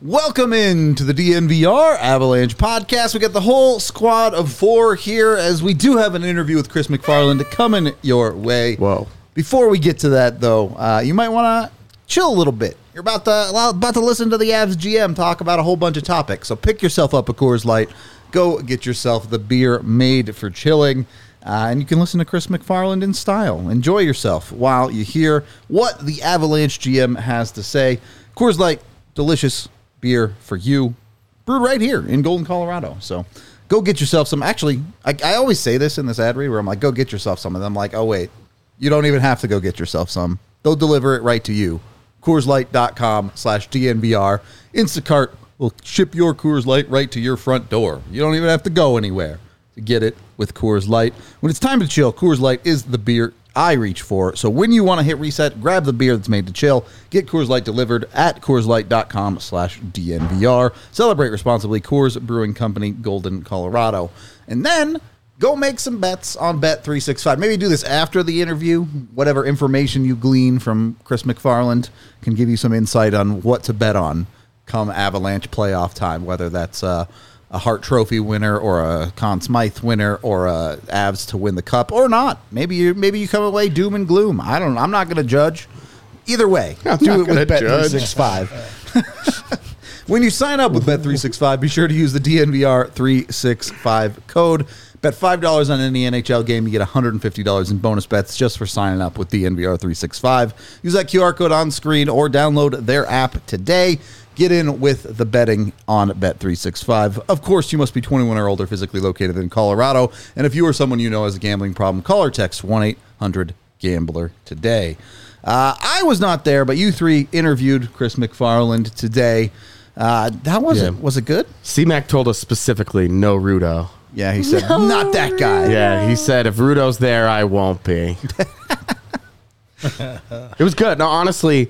Welcome in to the DNVR Avalanche podcast. We got the whole squad of 4 here as we do have an interview with Chris MacFarland coming your way. Whoa. Before we get to that, though, you might want to chill a little bit. You're about to listen to the Avs GM talk about a whole bunch of topics. So pick yourself up a Coors Light. Go get yourself the beer made for chilling. And you can listen to Chris MacFarland in style. Enjoy yourself while you hear what the Avalanche GM has to say. Coors Light, delicious beer for you, brewed right here in Golden, Colorado. So go get yourself some. Actually, I always say this in this ad read where I'm like, go get yourself some. And I'm like, oh, wait, you don't even have to go get yourself some. They'll deliver it right to you. CoorsLight.com/DNVR. Instacart will ship your Coors Light right to your front door. You don't even have to go anywhere to get it with Coors Light. When it's time to chill, Coors Light is the beer I reach for. So when you want to hit reset, grab the beer that's made to chill. Get Coors Light delivered at CoorsLight.com/DNVR. Celebrate responsibly. Coors Brewing Company, Golden, Colorado. And then go make some bets on Bet365. Maybe do this after the interview. Whatever information you glean from Chris MacFarland can give you some insight on what to bet on come Avalanche playoff time, whether that's a Hart Trophy winner or a Conn Smythe winner or a Avs to win the cup or not. Maybe you come away doom and gloom. I don't know. I'm not going to judge. Either way, do it with Bet365. When you sign up with Bet365, be sure to use the DNVR365 code. Bet $5 on any NHL game. You get $150 in bonus bets just for signing up with DNVR365. Use that QR code on screen or download their app today. Get in with the betting on Bet365. Of course, you must be 21 or older, physically located in Colorado. And if you or someone you know has a gambling problem, call or text 1-800-GAMBLER today. I was not there, but you three interviewed Chris MacFarland today. How was it? Was it good? C-Mac told us specifically no Rudo. Yeah, he said, not that guy. Yeah, he said, if Rudo's there, I won't be. It was good. No, honestly,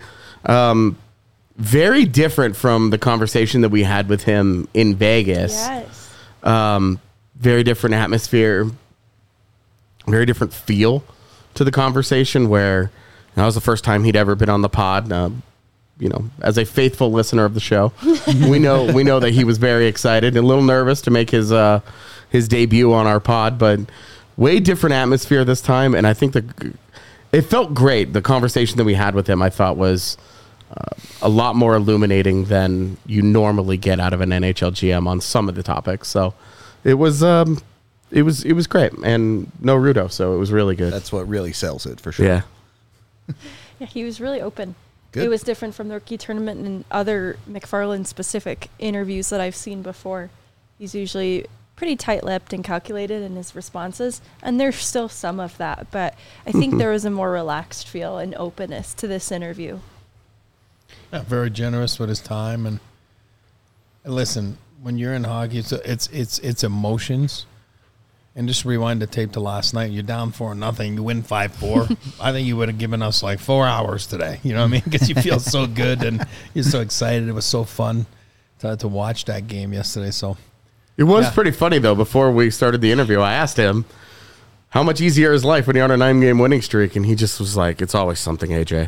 very different from the conversation that we had with him in Vegas. Yes. Very different atmosphere, very different feel to the conversation where that was the first time he'd ever been on the pod. As a faithful listener of the show, we know that he was very excited and a little nervous to make his debut on our pod, but way different atmosphere this time. And I think it felt great. The conversation that we had with him, I thought was a lot more illuminating than you normally get out of an NHL GM on some of the topics. So it was great, and no Rudo, so it was really good. That's what really sells it for sure. Yeah. Yeah, he was really open. Good. It was different from the rookie tournament and other MacFarland-specific interviews that I've seen before. He's usually pretty tight-lipped and calculated in his responses, and there's still some of that, but I think there was a more relaxed feel and openness to this interview. Yeah, very generous with his time, and listen, when you're in hockey, it's emotions. And just rewind the tape to last night. You're down 4-0. You win 5-4. I think you would have given us like 4 hours today. You know what I mean? Because you feel so good and you're so excited. It was so fun to watch that game yesterday. So it was pretty funny though. Before we started the interview, I asked him how much easier is life when you're on a 9-game winning streak, and he just was like, "It's always something, AJ."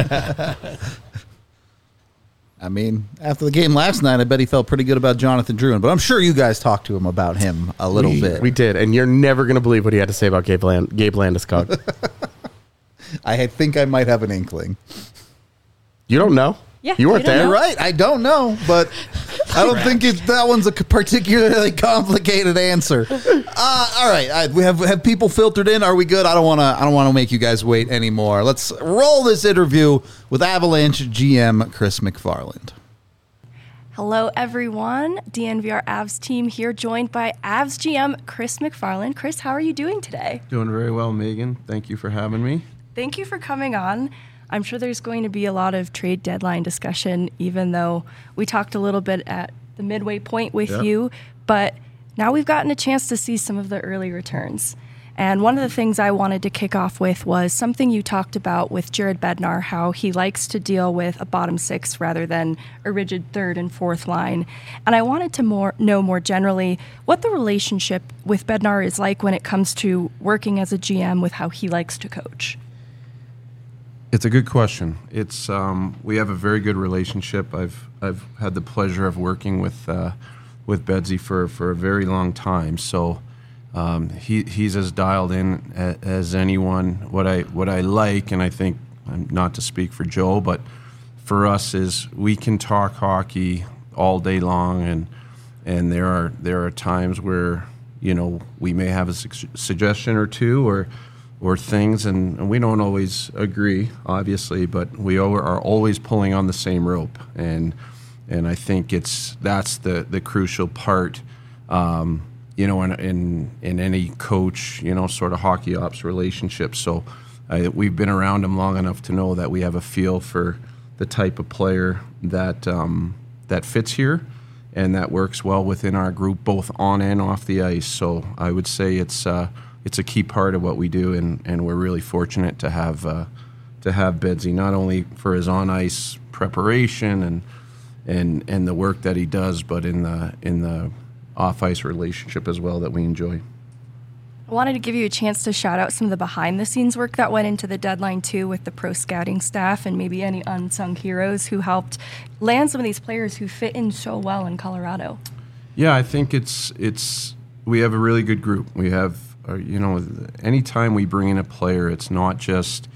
I mean, after the game last night, I bet he felt pretty good about Jonathan Drouin, but I'm sure you guys talked to him about him a little bit. We did, and you're never going to believe what he had to say about Gabe Landeskog. I think I might have an inkling. You don't know? Yeah, you weren't there, right? I don't know, but I don't think that one's a particularly complicated answer. All right, we have people filtered in. Are we good? I don't want to make you guys wait anymore. Let's roll this interview with Avalanche GM Chris MacFarland. Hello, everyone. DNVR Avs team here, joined by Avs GM Chris MacFarland. Chris, how are you doing today? Doing very well, Megan. Thank you for having me. Thank you for coming on. I'm sure there's going to be a lot of trade deadline discussion, even though we talked a little bit at the midway point with you. But now we've gotten a chance to see some of the early returns. And one of the things I wanted to kick off with was something you talked about with Jared Bednar, how he likes to deal with a bottom six rather than a rigid third and fourth line. And I wanted to know more generally what the relationship with Bednar is like when it comes to working as a GM with how he likes to coach. It's a good question. It's we have a very good relationship. I've had the pleasure of working with Bedsy for a very long time. So he's as dialed in as anyone. What I like, and I think, not to speak for Joe, but for us is we can talk hockey all day long, and there are times where we may have a suggestion or two or things, and we don't always agree, obviously, but we are always pulling on the same rope, and I think that's the crucial part, in any coach, sort of hockey ops relationship. So we've been around him long enough to know that we have a feel for the type of player that fits here and that works well within our group, both on and off the ice. So I would say it's a key part of what we do, and we're really fortunate to have Bedsy, not only for his on ice preparation and the work that he does, but in the off ice relationship as well that we enjoy. I wanted to give you a chance to shout out some of the behind the scenes work that went into the deadline too, with the pro scouting staff and maybe any unsung heroes who helped land some of these players who fit in so well in Colorado. Yeah, I think we have a really good group. We have, anytime we bring in a player, it's not just,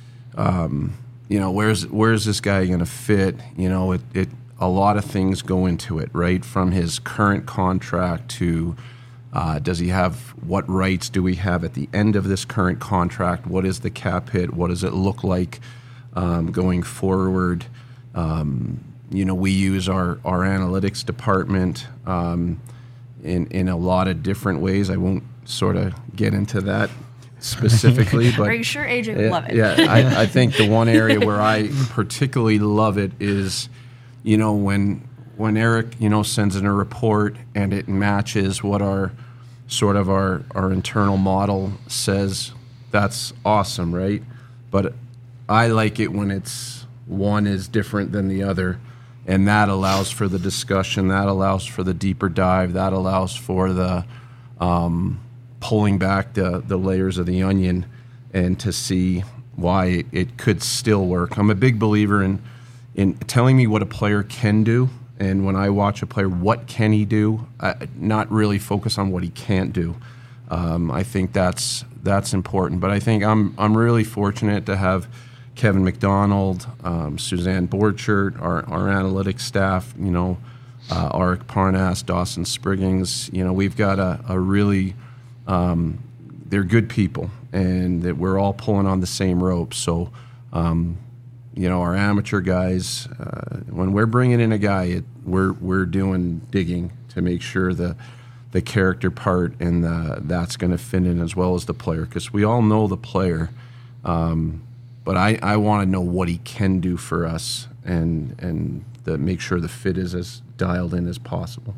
where's this guy going to fit? A lot of things go into it, right? From his current contract to does he have, what rights do we have at the end of this current contract? What is the cap hit? What does it look like going forward? We use our analytics department in a lot of different ways. I won't sort of get into that specifically, but are you sure AJ would love it? Yeah, I think the one area where I particularly love it is, when Eric, sends in a report and it matches what our internal model says, that's awesome, right? But I like it when one is different than the other, and that allows for the discussion, that allows for the deeper dive, that allows for the pulling back the layers of the onion and to see why it could still work. I'm a big believer in telling me what a player can do. And when I watch a player, what can he do? Not really focus on what he can't do. I think that's important. But I think I'm really fortunate to have Kevin McDonald, Suzanne Borchert, our analytics staff. Arik Parnas, Dawson Spriggins. We've got a really they're good people, and that we're all pulling on the same rope. So. Our amateur guys, when we're bringing in a guy, we're doing digging to make sure the character part and that's going to fit in as well as the player, because we all know the player, but I want to know what he can do for us and make sure the fit is as dialed in as possible.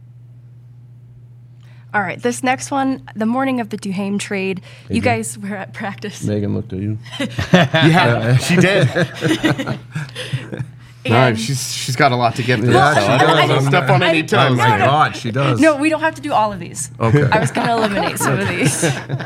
All right, this next one, the morning of the Duhaime trade, you guys were at practice. Megan looked at you. Yeah, she did. No, she's got a lot to get through. Yeah, so she I don't does. want to step on any Oh toes. my God, she does. No, we don't have to do all of these. Okay. I was going to eliminate some of these.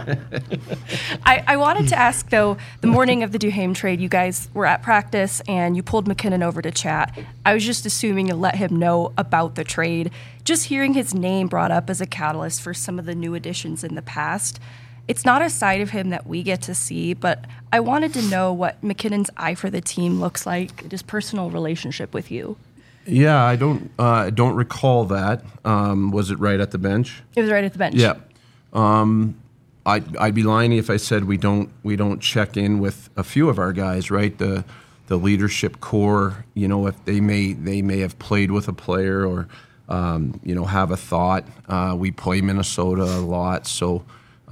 I wanted to ask, though, the morning of the Duhaime trade, you guys were at practice and you pulled MacKinnon over to chat. I was just assuming you let him know about the trade. Just hearing his name brought up as a catalyst for some of the new additions in the past. It's not a side of him that we get to see, but I wanted to know what MacKinnon's eye for the team looks like, his personal relationship with you. Yeah, I don't recall that. Was it right at the bench? It was right at the bench. Yeah. I'd be lying if I said we don't check in with a few of our guys, right? The leadership core, if they may have played with a player or have a thought. We play Minnesota a lot, so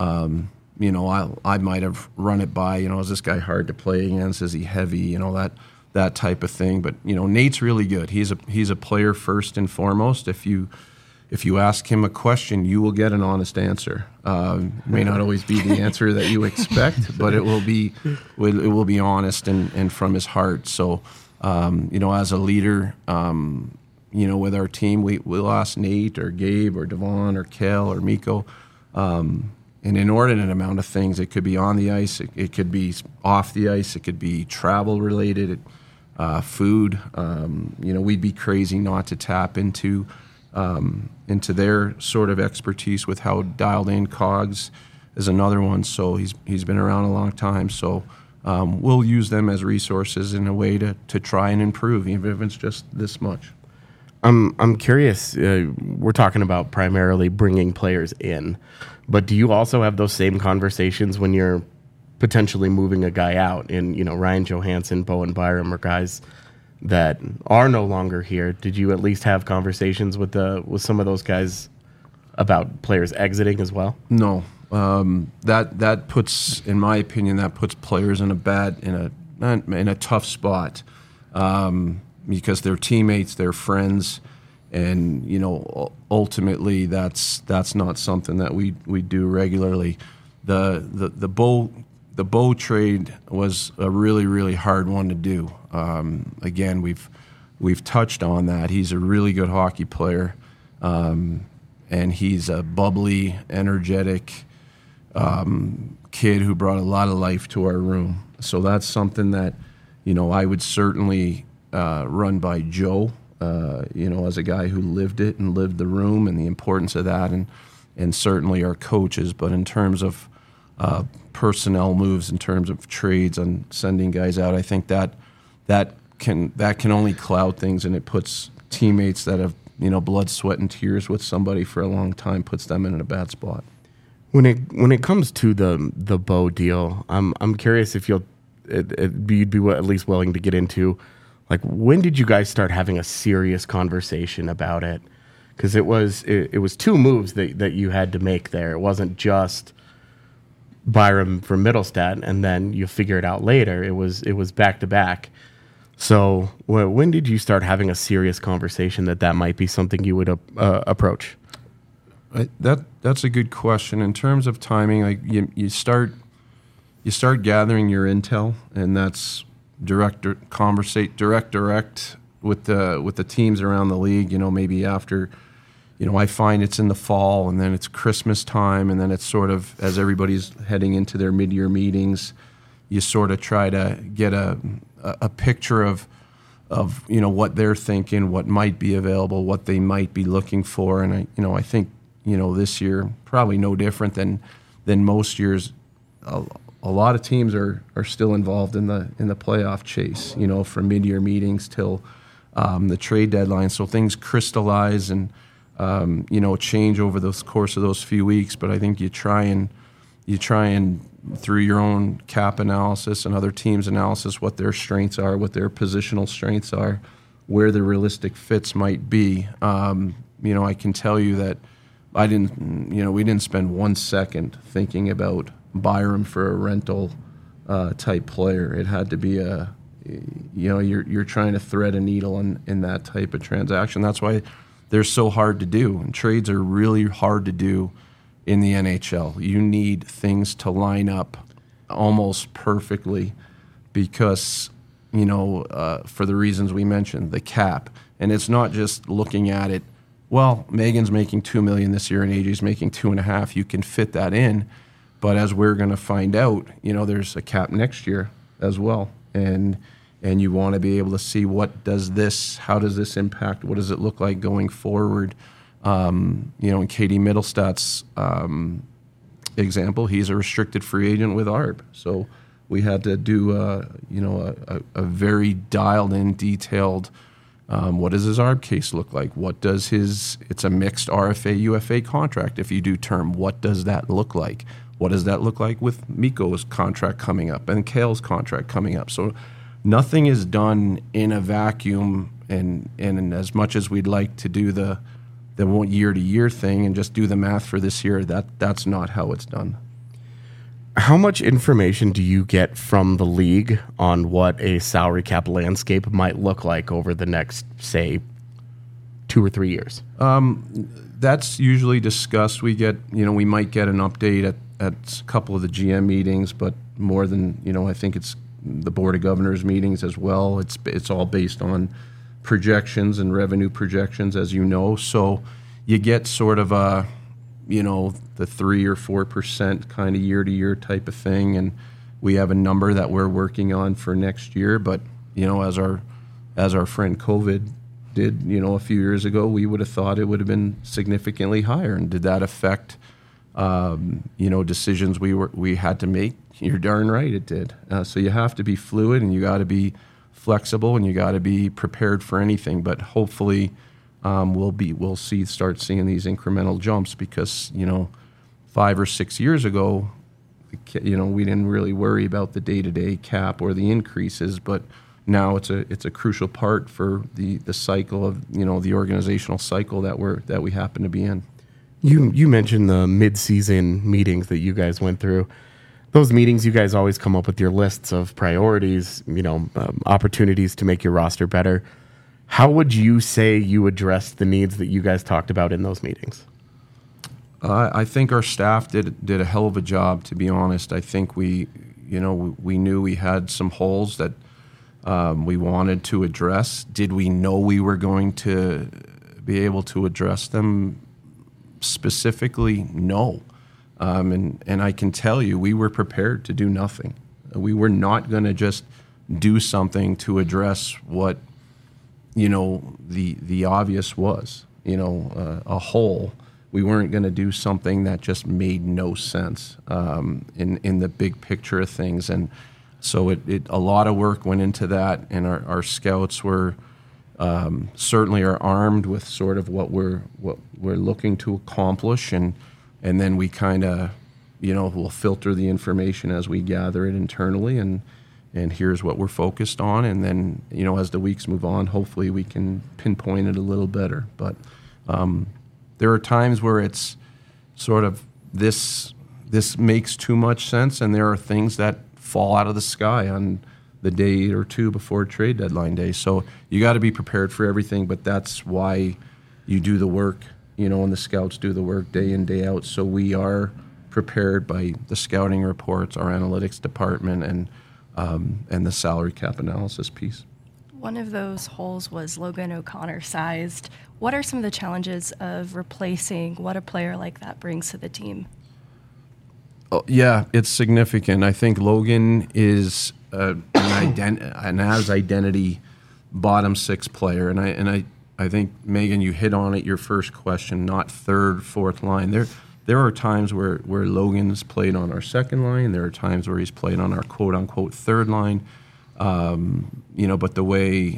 I might have run it by, is this guy hard to play against? Is he heavy? That type of thing. But Nate's really good. He's a player first and foremost. If you ask him a question, you will get an honest answer. May not always be the answer that you expect, but it will be honest and from his heart. So as a leader, with our team, we'll ask Nate or Gabe or Devon or Kel or Miko. an inordinate amount of things. It could be on the ice, it could be off the ice, it could be travel related, food. We'd be crazy not to tap into their sort of expertise with how dialed in. Cogs is another one. So he's been around a long time. So we'll use them as resources in a way to try and improve, even if it's just this much. I'm curious. We're talking about primarily bringing players in, but do you also have those same conversations when you're potentially moving a guy out? And Ryan Johansson, Bowen Byram are guys that are no longer here. Did you at least have conversations with some of those guys about players exiting as well? No. That puts, in my opinion, players in a tough spot. Because they're teammates, they're friends, and ultimately that's not something that we do regularly. The Bo trade was a really, really hard one to do. Again, we've touched on that. He's a really good hockey player, and he's a bubbly, energetic kid who brought a lot of life to our room. So that's something that I would certainly run by Joe, as a guy who lived it and lived the room and the importance of that, and certainly our coaches. But in terms of personnel moves, in terms of trades and sending guys out, I think that can only cloud things, and it puts teammates that have blood, sweat, and tears with somebody for a long time, puts them in a bad spot. When it comes to the Bo deal, I'm curious if you'd be at least willing to get into. Like, when did you guys start having a serious conversation about it? Because it was two moves that you had to make there. It wasn't just Byram from Middlestat, and then you figure it out later. It was back to back. So when did you start having a serious conversation that might be something you would approach? That's a good question. In terms of timing, like you start gathering your intel, and that's direct with the teams around the league. Maybe after, I find it's in the fall, and then it's Christmas time, and then it's sort of as everybody's heading into their mid-year meetings, you sort of try to get a picture of what they're thinking, what might be available, what they might be looking for, and I think this year probably no different than most years. A lot of teams are still involved in the playoff chase, from mid-year meetings till the trade deadline. So things crystallize and change over the course of those few weeks. But I think you try and through your own cap analysis and other teams' analysis, what their strengths are, what their positional strengths are, where the realistic fits might be. I can tell you that we didn't spend 1 second thinking about Byram for a rental type player. It had to be you're trying to thread a needle in that type of transaction. That's why they're so hard to do, and trades are really hard to do in the NHL. You need things to line up almost perfectly because for the reasons we mentioned, the cap, and it's not just looking at it. Well, Megan's making $2 million this year and AJ's making $2.5 million. You can fit that in. But as we're going to find out, there's a cap next year as well, and you want to be able to see how does this impact? What does it look like going forward? In Katie Middlestat's example, he's a restricted free agent with ARB, so we had to do a very dialed in, detailed. What does his ARB case look like? It's a mixed RFA UFA contract. If you do term, what does that look like? What does that look like with Mikko's contract coming up and Kale's contract coming up? So nothing is done in a vacuum, and as much as we'd like to do the year-to-year thing and just do the math for this year, that's not how it's done. How much information do you get from the league on what a salary cap landscape might look like over the next, say, 2 or 3 years? That's usually discussed. We might get an update at a couple of the GM meetings, but more than, I think it's the Board of Governors meetings as well. It's all based on projections and revenue projections, as you know. So you get sort of the 3 or 4% kind of year to year type of thing, and we have a number that we're working on for next year. But as our friend COVID did, a few years ago, we would have thought it would have been significantly higher. And did that affect decisions we had to make? You're darn right it did. So you have to be fluid, and you got to be flexible, and you got to be prepared for anything. But hopefully, we'll start seeing these incremental jumps, because 5 or 6 years ago, we didn't really worry about the day-to-day cap or the increases, but now it's a crucial part for the cycle of the organizational cycle that we happen to be in. You mentioned the mid-season meetings that you guys went through. Those meetings, you guys always come up with your lists of priorities, opportunities to make your roster better. How would you say you addressed the needs that you guys talked about in those meetings? I think our staff did a hell of a job, to be honest. I think we knew we had some holes that we wanted to address. Did we know we were going to be able to address them specifically? No. And I can tell you, we were prepared to do nothing. We were not going to just do something to address what the obvious was, a hole. We weren't going to do something that just made no sense in the big picture of things. And so a lot of work went into that, and our scouts were certainly are armed with sort of what we're looking to accomplish, and then we kind of we'll filter the information as we gather it internally, and here's what we're focused on, and then as the weeks move on, hopefully we can pinpoint it a little better. But there are times where it's sort of this makes too much sense, and there are things that fall out of the sky on the day or two before trade deadline day. So you got to be prepared for everything, but that's why you do the work, and the scouts do the work day in, day out. So we are prepared by the scouting reports, our analytics department, and the salary cap analysis piece. One of those holes was Logan O'Connor sized. What are some of the challenges of replacing what a player like that brings to the team? Oh, yeah, it's significant. I think Logan is an as identity bottom six player, and I think, Megan, you hit on it your first question, not third, fourth line. There are times where Logan's played on our second line. There are times where he's played on our quote-unquote third line. But the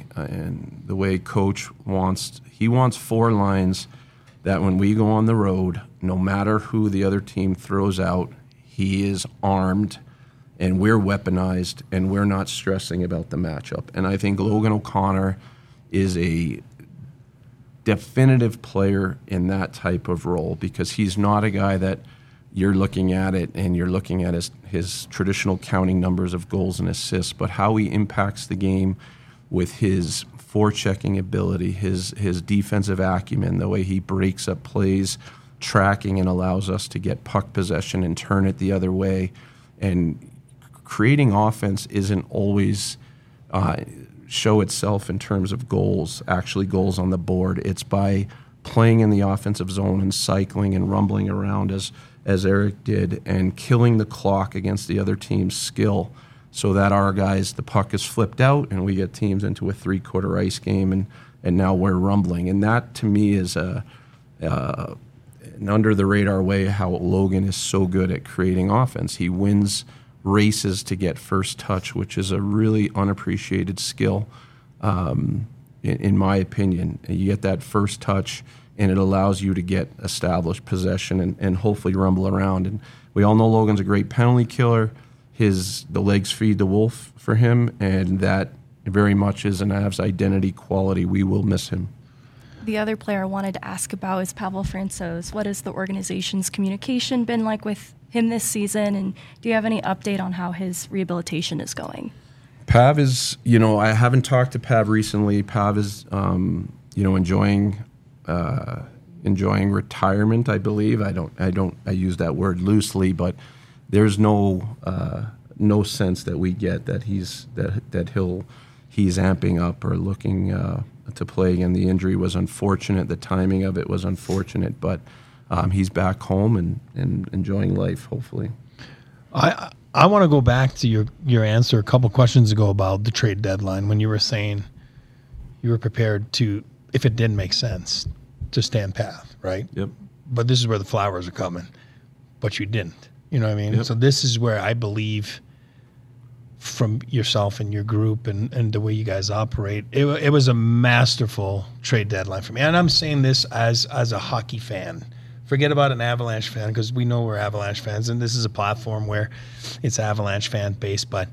way Coach wants 4 lines that when we go on the road, no matter who the other team throws out, he is armed and we're weaponized and we're not stressing about the matchup. And I think Logan O'Connor is a definitive player in that type of role, because he's not a guy that you're looking at it and you're looking at his traditional counting numbers of goals and assists, but how he impacts the game with his forechecking ability, his defensive acumen, the way he breaks up plays, tracking, and allows us to get puck possession and turn it the other way. And creating offense isn't always show itself in terms of goals, actually goals on the board. It's by playing in the offensive zone and cycling and rumbling around as Eric did, and killing the clock against the other team's skill, so that our guys, the puck is flipped out and we get teams into a 3-quarter ice game, and now we're rumbling. And that, to me, is an under-the-radar way how Logan is so good at creating offense. He wins races to get first touch, which is a really unappreciated skill, in my opinion. You get that first touch, and it allows you to get established possession and hopefully rumble around. And we all know Logan's a great penalty killer. The legs feed the wolf for him, and that very much is an Avs identity quality. We will miss him. The other player I wanted to ask about is Pavel Francouz. What has the organization's communication been like with him this season, and do you have any update on how his rehabilitation is going? Pav is, I haven't talked to Pav recently. Pav is, enjoying retirement, I believe. I use that word loosely, but there's no sense that we get that he's amping up or looking to play again. The injury was unfortunate. The timing of it was unfortunate, but he's back home and enjoying life, hopefully. I want to go back to your answer a couple questions ago about the trade deadline when you were saying you were prepared to, if it didn't make sense, to stand path, right? Yep. But this is where the flowers are coming, but you didn't. You know what I mean? Yep. So this is where I believe from yourself and your group and the way you guys operate, it was a masterful trade deadline for me. And I'm saying this as a hockey fan. Forget about an Avalanche fan because we know we're Avalanche fans, and this is a platform where it's Avalanche fan based. But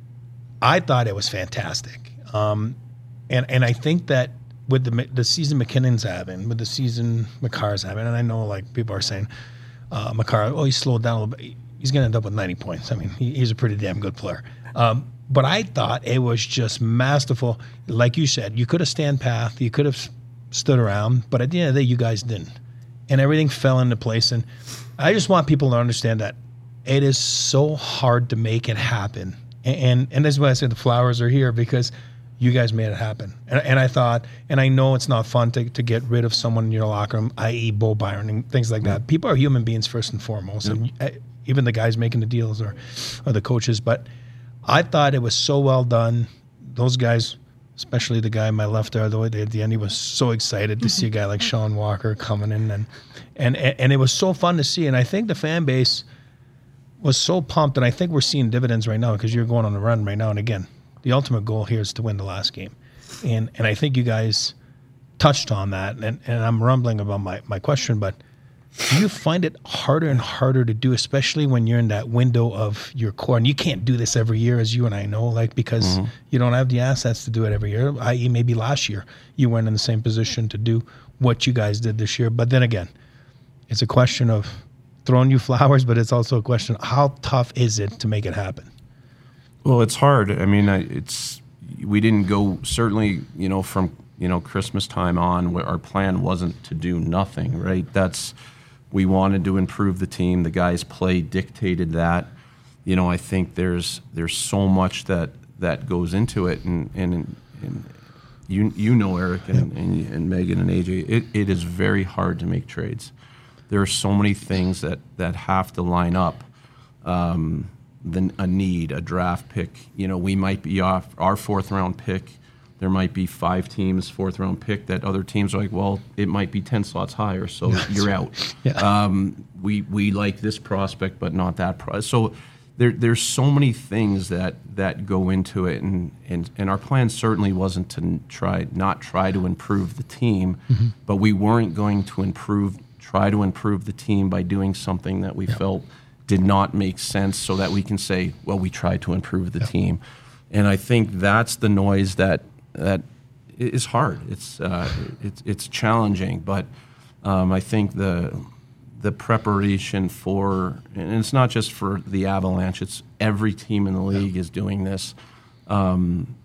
I thought it was fantastic, and I think that with the season McKinnon's having, with the season Makar's having, and I know like people are saying Makar, he slowed down a little bit. He's going to end up with 90 points. I mean, he's a pretty damn good player. But I thought it was just masterful. Like you said, you could have stand path, you could have stood around, but at the end of the day, you guys didn't. And everything fell into place. And I just want people to understand that it is so hard to make it happen. And that's why I said the flowers are here, because you guys made it happen. And I thought, and I know it's not fun to get rid of someone in your locker room, i.e. Bo Byron and things like that. People are human beings first and foremost. And even the guys making the deals or the coaches. But I thought it was so well done. Those guys, especially the guy on my left there, at the end, he was so excited to see a guy like Sean Walker coming in, and it was so fun to see. And I think the fan base was so pumped, and I think we're seeing dividends right now because you're going on a run right now. And again, the ultimate goal here is to win the last game, and I think you guys touched on that. And I'm rumbling about my question, but do you find it harder and harder to do, especially when you're in that window of your core? And you can't do this every year, as you and I know, like because you don't have the assets to do it every year, i.e. maybe last year you weren't in the same position to do what you guys did this year. But then again, it's a question of throwing you flowers, but it's also a question of how tough is it to make it happen? Well, it's hard. I mean, we didn't go, certainly, from, Christmas time on, where our plan wasn't to do nothing, right? We wanted to improve the team. The guys' play dictated that. I think there's so much that goes into it, and Eric and Megan and AJ. It is very hard to make trades. There are so many things that have to line up. A need, a draft pick. We might be off our 4th round pick. There might be 5 teams 4th round pick that other teams are like, well, it might be 10 slots higher, so you're out. Yeah. We like this prospect, but not that prospect. So there's so many things that go into it, and our plan certainly wasn't to try to improve the team, but we weren't going to try to improve the team by doing something that we felt did not make sense, so that we can say, well, we tried to improve the team. And I think that's the noise that is hard. It's challenging, but I think the preparation for, and it's not just for the Avalanche, it's every team in the league is doing this. From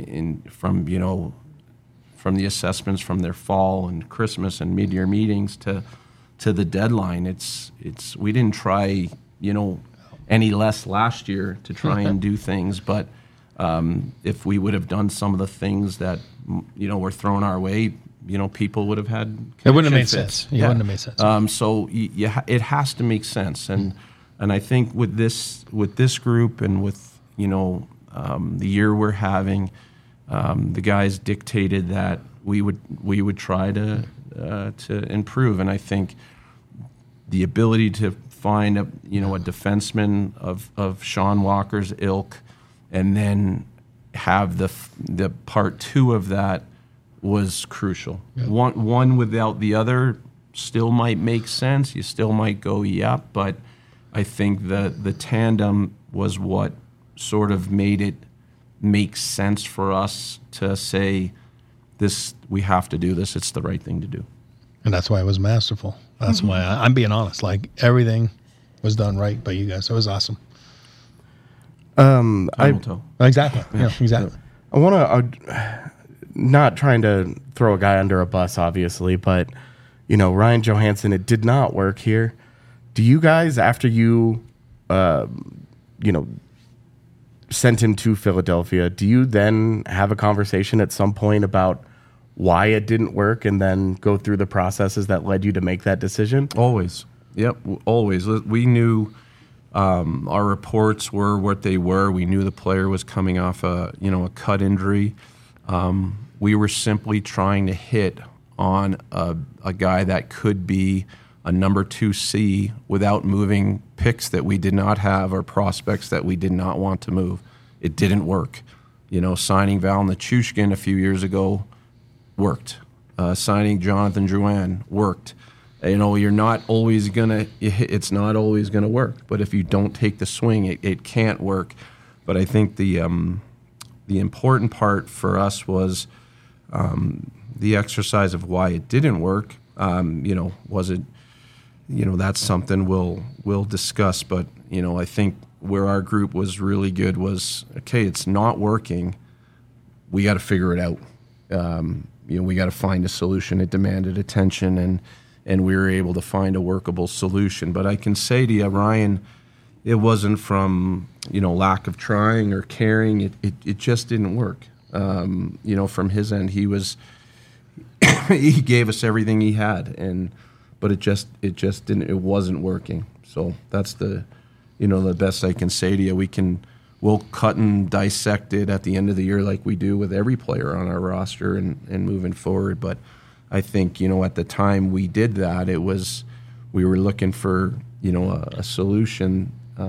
the assessments from their fall and Christmas and mid-year meetings to the deadline, we didn't try any less last year to try and do things, but if we would have done some of the things that were thrown our way, people would have had. It wouldn't have made sense. It wouldn't have made sense. So it has to make sense, and I think with this group and with the year we're having, the guys dictated that we would try to improve, and I think the ability to find a defenseman of Sean Walker's ilk, and then have the part 2 of that was crucial. Yeah. One without the other still might make sense. You still might go, yeah, but I think the tandem was what sort of made it make sense for us to say, we have to do this. It's the right thing to do. And that's why it was masterful. That's why I'm being honest. Like, everything was done right by you guys. It was awesome. Exactly. Yeah, exactly. I want to, not trying to throw a guy under a bus, obviously, but, Ryan Johansson, it did not work here. Do you guys, after you, sent him to Philadelphia, do you then have a conversation at some point about why it didn't work and then go through the processes that led you to make that decision? Always. Yep, always. We knew our reports were what they were. We knew the player was coming off a cut injury. We were simply trying to hit on a guy that could be a number 2C without moving picks that we did not have or prospects that we did not want to move. It didn't work. Signing Val Nichushkin a few years ago worked. Signing Jonathan Drouin worked. You're not always it's not always gonna work. But if you don't take the swing, it can't work. But I think the important part for us was the exercise of why it didn't work. Was it? That's something we'll discuss. But I think where our group was really good was, okay, it's not working. We got to figure it out. We got to find a solution. It demanded attention, and we were able to find a workable solution. But I can say to you, Ryan, it wasn't from lack of trying or caring. It just didn't work. From his end, he gave us everything he had, but it just didn't. It wasn't working. So that's the best I can say to you. We'll cut and dissect it at the end of the year like we do with every player on our roster and moving forward. But I think, at the time we did that, we were looking for, a solution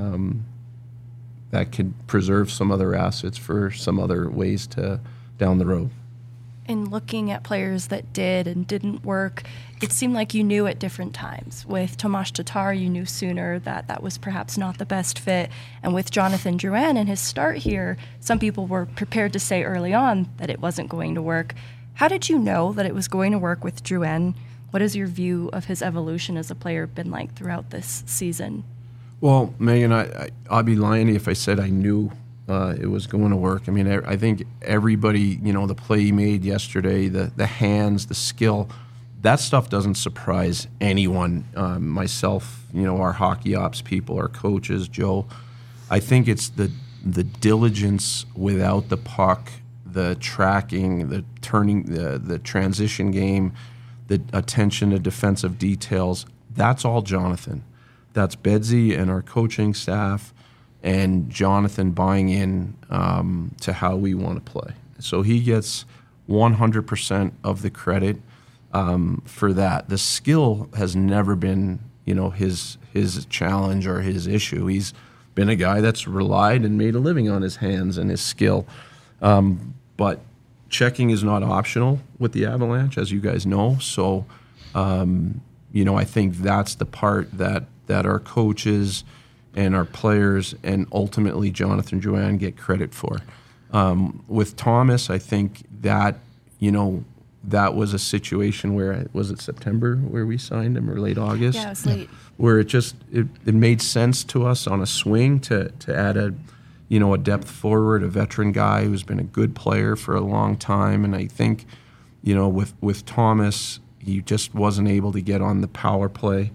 that could preserve some other assets for some other ways to down the road. In looking at players that did and didn't work, it seemed like you knew at different times. With Tomas Tatar, you knew sooner that was perhaps not the best fit. And with Jonathan Drouin and his start here, some people were prepared to say early on that it wasn't going to work. How did you know that it was going to work with Drouin? What has your view of his evolution as a player been like throughout this season? Well, Megan, I'd be lying if I said I knew it was going to work. I mean, I think everybody, the play he made yesterday, the hands, the skill, that stuff doesn't surprise anyone. Myself, our hockey ops people, our coaches, Joe. I think it's the diligence without the puck, the tracking, the turning, the transition game, the attention to defensive details. That's all Jonathan. That's Bedsy and our coaching staff, and Jonathan buying in to how we want to play. So he gets 100% of the credit for that. The skill has never been, his challenge or his issue. He's been a guy that's relied and made a living on his hands and his skill. But checking is not optional with the Avalanche, as you guys know. So, I think that's the part that our coaches and our players and ultimately Jonathan Drouin get credit for. With Thomas, I think that, that was a situation where, was it September where we signed him or late August? Yeah, it was late. Where it made sense to us on a swing to add a depth forward, a veteran guy who's been a good player for a long time. And I think, with Thomas, he just wasn't able to get on the power play.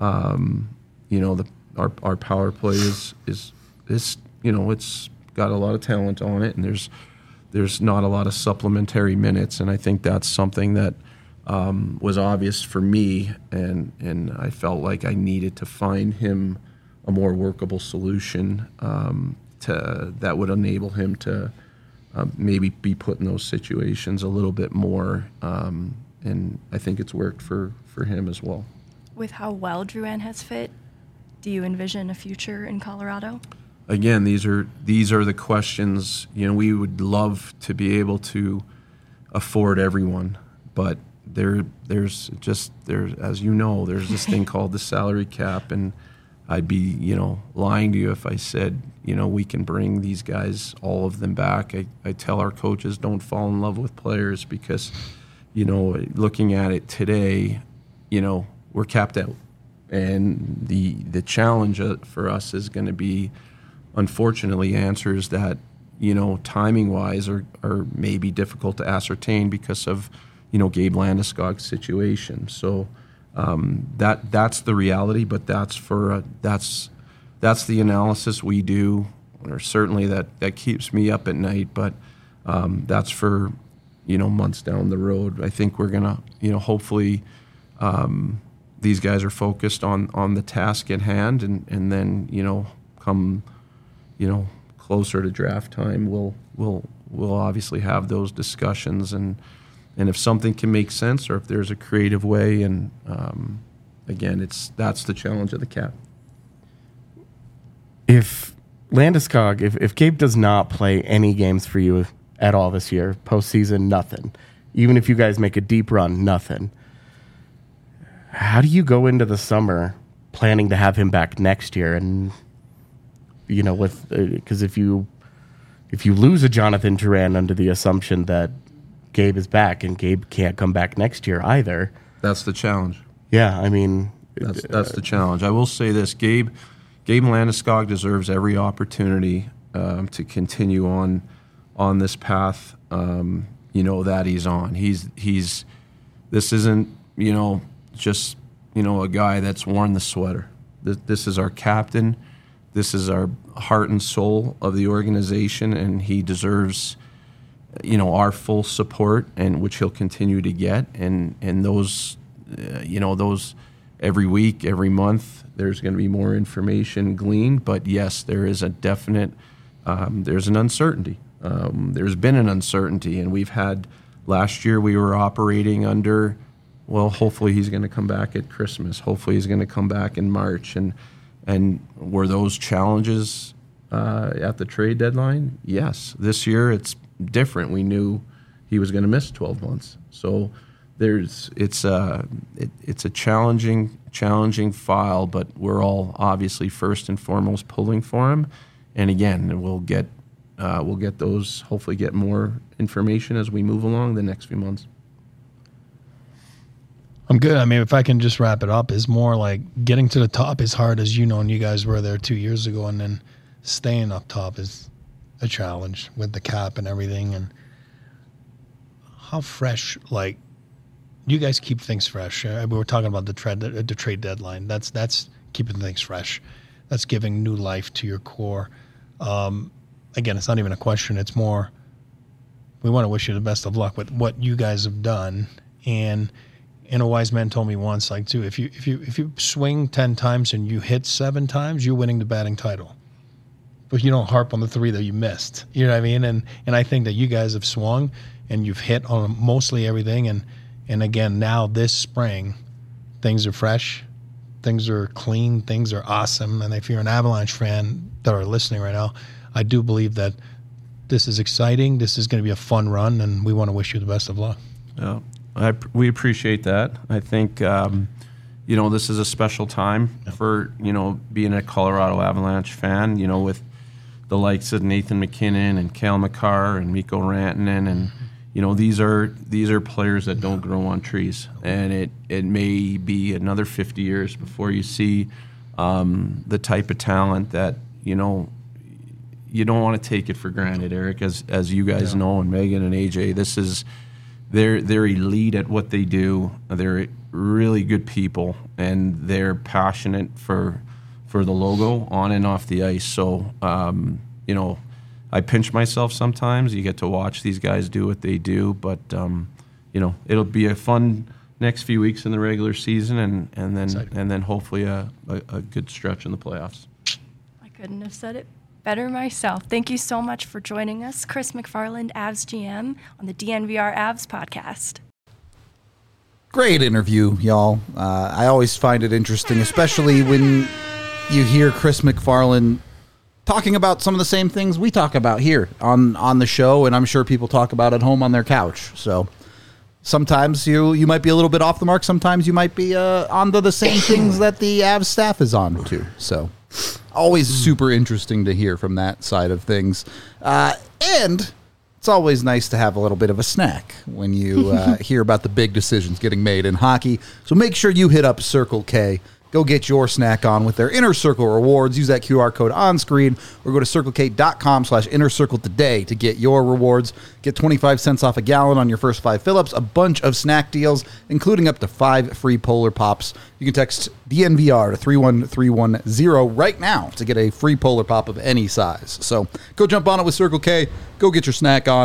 Our power play is it's got a lot of talent on it, and there's not a lot of supplementary minutes, and I think that's something that was obvious for me, and I felt like I needed to find him a more workable solution that would enable him to maybe be put in those situations a little bit more, and I think it's worked for him as well. With how well Drouin has fit, do you envision a future in Colorado? Again, these are the questions. We would love to be able to afford everyone, but there's as you know, there's this thing called the salary cap, and I'd be lying to you if I said we can bring these guys, all of them, back. I tell our coaches, don't fall in love with players because looking at it today, we're capped out. And the challenge for us is going to be, unfortunately, answers that, timing-wise are maybe difficult to ascertain because of, Gabe Landeskog's situation. So that's the reality, but that's the analysis we do, or certainly that keeps me up at night. But that's for, months down the road. I think we're gonna, hopefully, these guys are focused on the task at hand, and then come closer to draft time, we'll obviously have those discussions, and if something can make sense, or if there's a creative way, and again, that's the challenge of the cap. If Landeskog, if Gabe does not play any games for you at all this year, postseason, nothing, even if you guys make a deep run, nothing, how do you go into the summer planning to have him back next year? And because if you lose a Jonathan Duran under the assumption that Gabe is back, and Gabe can't come back next year either, that's the challenge. Yeah, I mean, that's the challenge. I will say this: Gabe Landeskog deserves every opportunity to continue on this path. That he's on. He's. This isn't just a guy that's worn the sweater. This is our captain. This is our heart and soul of the organization, and he deserves our full support, and which he'll continue to get. And those those every week, every month, there's going to be more information gleaned. But yes, there is a definite there's an uncertainty. There's been an uncertainty, and we've had last year we were operating under, well, hopefully he's going to come back at Christmas. Hopefully he's going to come back in March. And were those challenges at the trade deadline? Yes. This year it's different. We knew he was going to miss 12 months. So it's a challenging file, but we're all obviously first and foremost pulling for him. And again, we'll get those, hopefully get more information as we move along the next few months. I'm good. I mean, if I can just wrap it up, is more like getting to the top is hard, as and you guys were there 2 years ago, and then staying up top is a challenge with the cap and everything. And how fresh, like, you guys keep things fresh. We were talking about the trade deadline. That's keeping things fresh. That's giving new life to your core. Again, it's not even a question. It's more, we want to wish you the best of luck with what you guys have done. And a wise man told me once, like, too, if you swing 10 times and you hit 7 times, you're winning the batting title. But you don't harp on the 3 that you missed. You know what I mean? And I think that you guys have swung and you've hit on mostly everything. And again, now this spring, things are fresh, things are clean, things are awesome. And if you're an Avalanche fan that are listening right now, I do believe that this is exciting. This is going to be a fun run, and we want to wish you the best of luck. Yeah. We appreciate that. I think, this is a special time for, being a Colorado Avalanche fan, with the likes of Nathan McKinnon and Cale Makar and Mikko Rantanen. And, these are players that don't grow on trees. And it may be another 50 years before you see the type of talent that, you don't want to take it for granted, Eric, as you guys know, and Megan and AJ. This is... They're elite at what they do. They're really good people, and they're passionate for the logo on and off the ice. So, I pinch myself sometimes. You get to watch these guys do what they do, but it'll be a fun next few weeks in the regular season, and then hopefully a good stretch in the playoffs. I couldn't have said it better myself. Thank you so much for joining us, Chris McFarland, Avs GM, on the DNVR Avs podcast. Great interview, y'all. I always find it interesting, especially when you hear Chris McFarland talking about some of the same things we talk about here on the show, and I'm sure people talk about at home on their couch. So sometimes you might be a little bit off the mark. Sometimes you might be onto the same things that the Avs staff is on too. So always super interesting to hear from that side of things. And it's always nice to have a little bit of a snack when you hear about the big decisions getting made in hockey. So make sure you hit up Circle K. Go get your snack on with their Inner Circle rewards. Use that QR code on screen or go to circlek.com/innercircle today to get your rewards. Get 25 cents off a gallon on your first 5 fill-ups, a bunch of snack deals, including up to 5 free Polar Pops. You can text DNVR to 31310 right now to get a free Polar Pop of any size. So go jump on it with Circle K. Go get your snack on.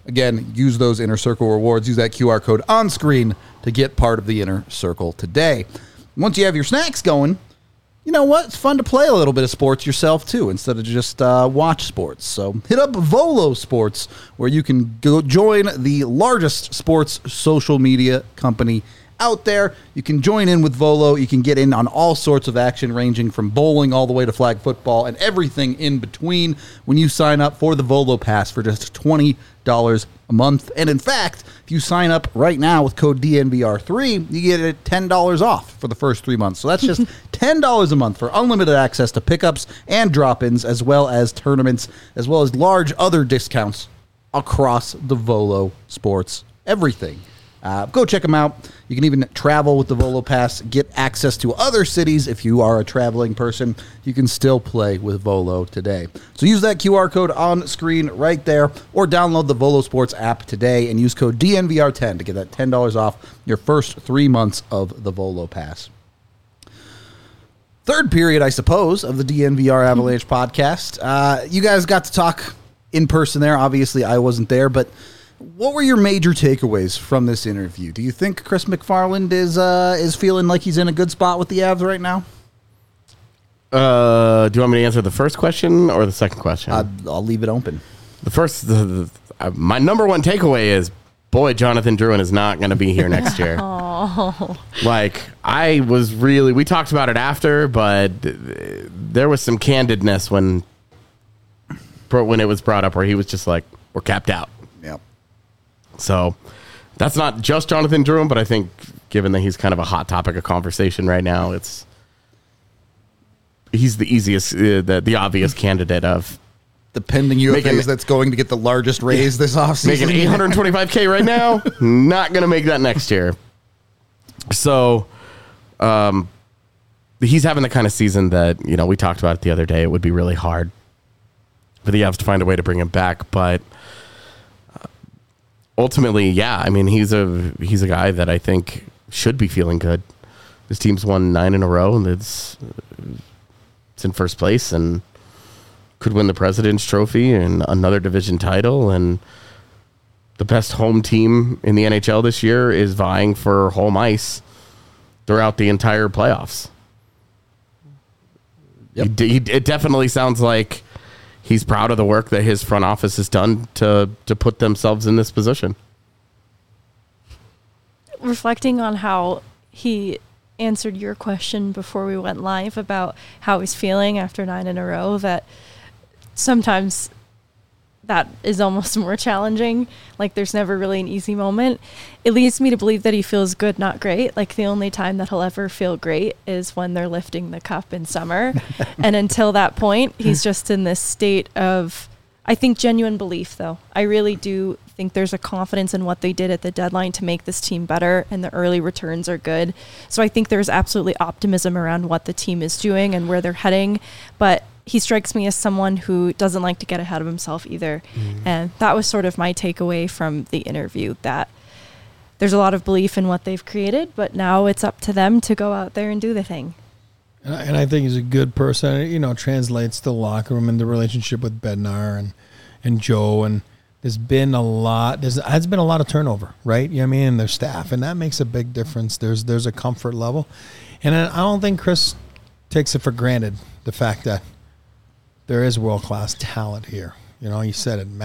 Again, use those Inner Circle rewards. Use that QR code on screen to get part of the Inner Circle today. Once you have your snacks going, you know what? It's fun to play a little bit of sports yourself, too, instead of just watch sports. So hit up Volo Sports, where you can go join the largest sports social media company out there. You can join in with Volo. You can get in on all sorts of action, ranging from bowling all the way to flag football and everything in between when you sign up for the Volo Pass for just $20 a month. And in fact, if you sign up right now with code DNVR3, you get it $10 off for the first 3 months. So that's just $10 a month for unlimited access to pickups and drop-ins, as well as tournaments, as well as large other discounts across the Volo Sports everything. Go check them out. You can even travel with the Volo Pass, get access to other cities. If you are a traveling person, you can still play with Volo today. So use that QR code on screen right there, or download the Volo Sports app today and use code DNVR10 to get that $10 off your first 3 months of the Volo Pass. Third period, I suppose, of the DNVR Avalanche podcast. You guys got to talk in person there. Obviously, I wasn't there, but what were your major takeaways from this interview? Do you think Chris McFarland is feeling like he's in a good spot with the Avs right now? Do you want me to answer the first question or the second question? I'll leave it open. The first, my number one takeaway is, boy, Jonathan Drouin is not going to be here next year. Like, we talked about it after, but there was some candidness when it was brought up where he was just like, we're capped out. Yep. So that's not just Jonathan Drouin, but I think given that he's kind of a hot topic of conversation right now, he's the easiest, the obvious candidate of the pending UFAs that's going to get the largest raise this offseason. Making $825K right now, not going to make that next year. So he's having the kind of season that, we talked about it the other day. It would be really hard for the Avs to find a way to bring him back, but ultimately, yeah, I mean, he's a guy that I think should be feeling good. His team's won 9 in a row, and it's in first place and could win the President's Trophy and another division title. And the best home team in the NHL this year is vying for home ice throughout the entire playoffs. Yep. It definitely sounds like he's proud of the work that his front office has done to put themselves in this position. Reflecting on how he answered your question before we went live about how he's feeling after 9 in a row, that sometimes that is almost more challenging. Like, there's never really an easy moment. It leads me to believe that he feels good, not great. Like, the only time that he'll ever feel great is when they're lifting the cup in summer. And until that point, he's just in this state of, I think, genuine belief, though. I really do think there's a confidence in what they did at the deadline to make this team better, and the early returns are good. So I think there's absolutely optimism around what the team is doing and where they're heading. But he strikes me as someone who doesn't like to get ahead of himself either. And that was sort of my takeaway from the interview, that there's a lot of belief in what they've created, but now it's up to them to go out there and do the thing. And I think he's a good person. It translates to the locker room and the relationship with Bednar and Joe. And there's been a lot of turnover, right? You know what I mean? And their staff. And that makes a big difference. There's a comfort level. And I don't think Chris takes it for granted, the fact that there is world-class talent here. You said it,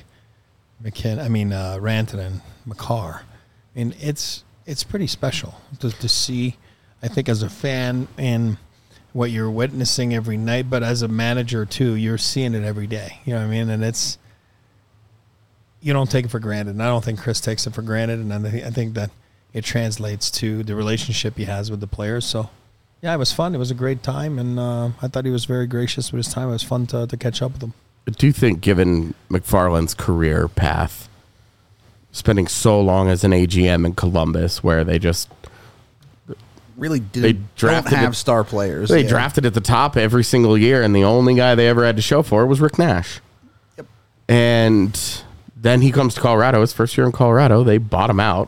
Rantanen, Makar. I mean, it's pretty special to see, I think, as a fan and what you're witnessing every night, but as a manager too, you're seeing it every day. You know what I mean? And you don't take it for granted. And I don't think Chris takes it for granted. And I think that it translates to the relationship he has with the players. So, yeah, it was fun. It was a great time, and I thought he was very gracious with his time. It was fun to catch up with him. I do think, given McFarland's career path, spending so long as an AGM in Columbus, where they just really don't have star players. They drafted at the top every single year, and the only guy they ever had to show for was Rick Nash. Yep. And then he comes to Colorado. His first year in Colorado, they bought him out.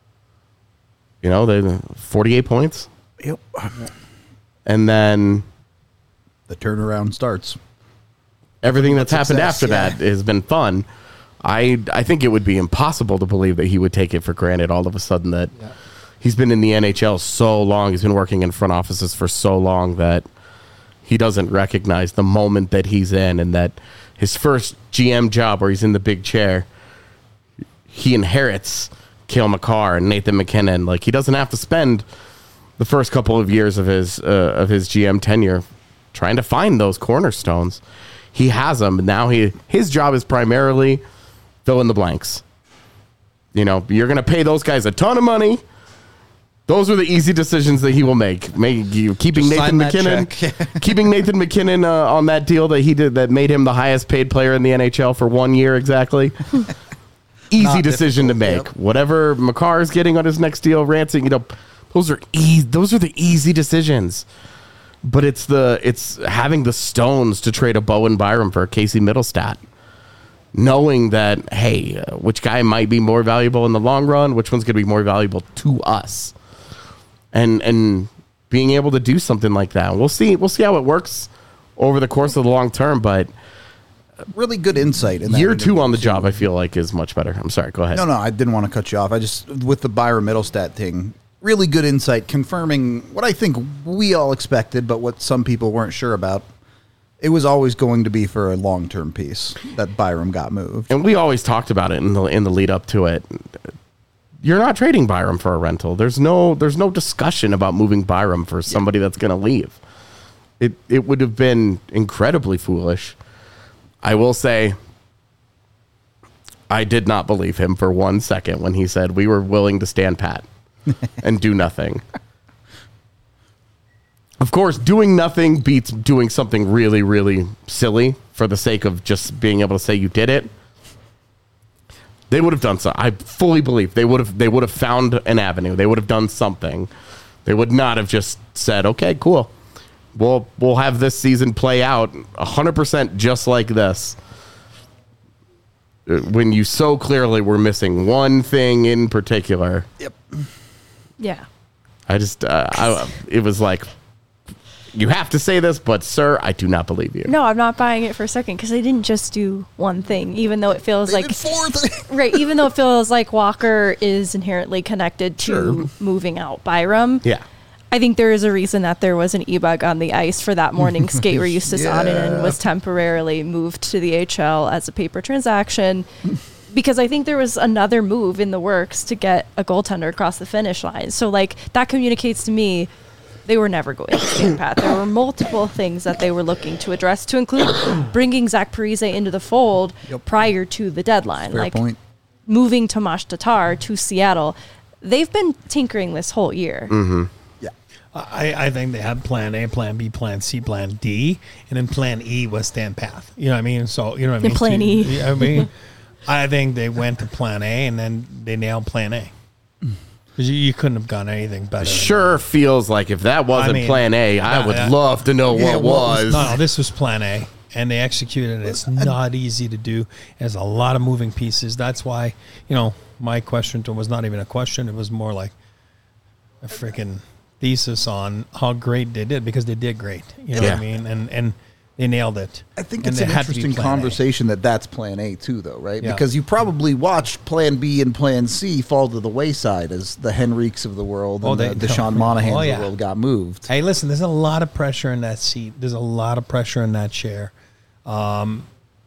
They 48 points. Yep. And then the turnaround starts. Everything that's happened after that has been fun. I think it would be impossible to believe that he would take it for granted all of a sudden that he's been in the NHL so long, he's been working in front offices for so long that he doesn't recognize the moment that he's in, and that his first GM job where he's in the big chair, he inherits Cale Makar and Nathan McKinnon. Like, he doesn't have to spend the first couple of years of his GM tenure trying to find those cornerstones. He has them. Now his job is primarily fill in the blanks. You know, you're going to pay those guys a ton of money. Those are the easy decisions that he will make. Keeping Nathan McKinnon, keeping Nathan McKinnon on that deal that he did that made him the highest paid player in the NHL for 1 year exactly. Easy decision to make. Yep. Whatever Makar is getting on his next deal, Rancing, you know, those are the easy decisions. But it's having the stones to trade a Bowen Byram for Casey Middlestat. Knowing that, hey, which guy might be more valuable in the long run, which one's going to be more valuable to us. And being able to do something like that. We'll see how it works over the course of the long term, but really good insight in that year 2 on the job, I feel like, is much better. I'm sorry, go ahead. No, I didn't want to cut you off. I just, with the Byram Middlestat thing, really good insight, confirming what I think we all expected, but what some people weren't sure about. It was always going to be for a long-term piece that Byram got moved. And we always talked about it in the lead up to it. You're not trading Byram for a rental. There's no discussion about moving Byram for somebody that's going to leave. It would have been incredibly foolish. I will say I did not believe him for 1 second when he said we were willing to stand pat and do nothing. Of course, doing nothing beats doing something really, really silly for the sake of just being able to say you did it. They would have done so. I fully believe they would have found an avenue. They would have done something. They would not have just said, "Okay, cool. We'll have this season play out 100% just like this." When you so clearly were missing one thing in particular. Yep. Yeah. I just it was like, you have to say this, but sir, I do not believe you. No, I'm not buying it for a second because they didn't just do one thing, even though it feels They like did 4 things. right. Even though it feels like Walker is inherently connected to moving out Byram. Yeah. I think there is a reason that there was an e-bug on the ice for that morning skate where Justus Annunen was temporarily moved to the HL as a paper transaction. Because I think there was another move in the works to get a goaltender across the finish line. So, like, that communicates to me they were never going to stand pat. There were multiple things that they were looking to address, to include bringing Zach Parise into the fold prior to the deadline. Fair point. Moving Tomas Tatar to Seattle. They've been tinkering this whole year. Mm-hmm. Yeah. I think they had plan A, plan B, plan C, plan D, and then plan E was Stan Path. You know what I mean? So, you know what I mean? Plan E. I mean, I think they went to plan A, and then they nailed plan A. Because you couldn't have gone anything better. Sure feels like if that wasn't plan A, I would love to know what was. No, this was plan A, and they executed it. It's not easy to do. There's a lot of moving pieces. That's why, my question to him was not even a question. It was more like a freaking thesis on how great they did, because they did great. You know what I mean? And they nailed it. I think it's an interesting conversation that's plan A too, though, right? Yeah. Because you probably watched plan B and plan C fall to the wayside as the Henriques of the world and the Sean Monahans of the world got moved. Hey, listen, there's a lot of pressure in that seat. There's a lot of pressure in that chair. Avs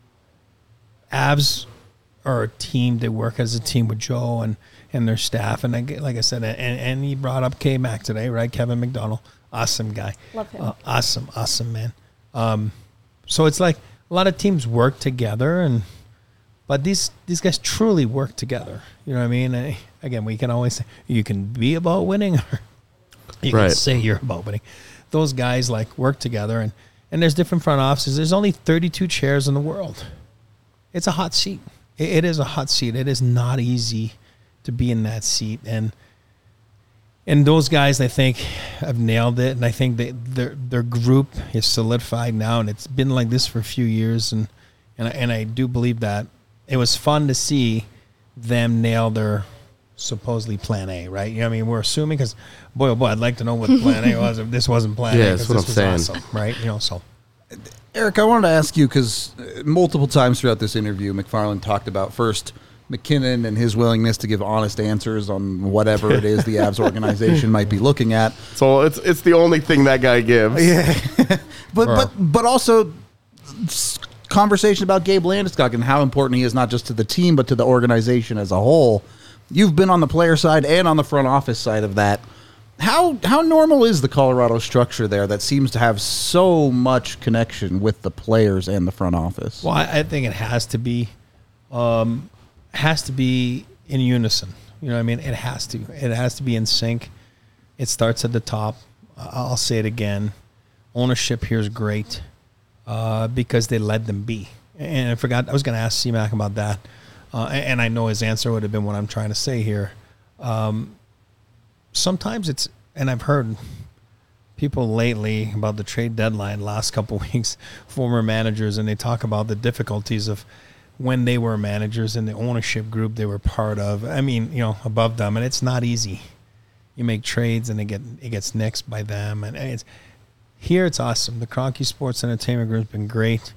are a team. They work as a team with Joe and their staff. And like I said, and he brought up K-Mac today, right? Kevin McDonald. Awesome guy. Love him. Awesome, man. So it's like a lot of teams work together, but these guys truly work together. You know what I mean? And again, we can always say you can be about winning, or you can say you're about winning. Those guys work together, and there's different front offices. There's only 32 chairs in the world. It's a hot seat. It is a hot seat. It is not easy to be in that seat, and those guys, I think, have nailed it. And I think their group is solidified now, and it's been like this for a few years. And I do believe that it was fun to see them nail their supposedly plan A, right? You know what I mean? We're assuming, because, boy, oh boy, I'd like to know what plan A was if this wasn't plan A. Yeah, that's what I'm saying. Awesome, right? So Eric, I wanted to ask you, because multiple times throughout this interview, McFarland talked about first McKinnon and his willingness to give honest answers on whatever it is the Avs organization might be looking at. So it's the only thing that guy gives. Yeah, but also conversation about Gabe Landeskog and how important he is not just to the team but to the organization as a whole. You've been on the player side and on the front office side of that. How normal is the Colorado structure there that seems to have so much connection with the players and the front office? Well, I think it has to be. Has to be in unison. You know what I mean? It has to. It has to be in sync. It starts at the top. I'll say it again. Ownership here is great because they let them be. And I forgot, I was going to ask C-Mac about that. And I know his answer would have been what I'm trying to say here. Sometimes it's, and I've heard people lately about the trade deadline last couple of weeks, former managers, and they talk about the difficulties of when they were managers in the ownership group they were part of. I mean, above them, and it's not easy. You make trades and it gets nixed by them, and it's awesome. The Kroenke Sports Entertainment Group has been great.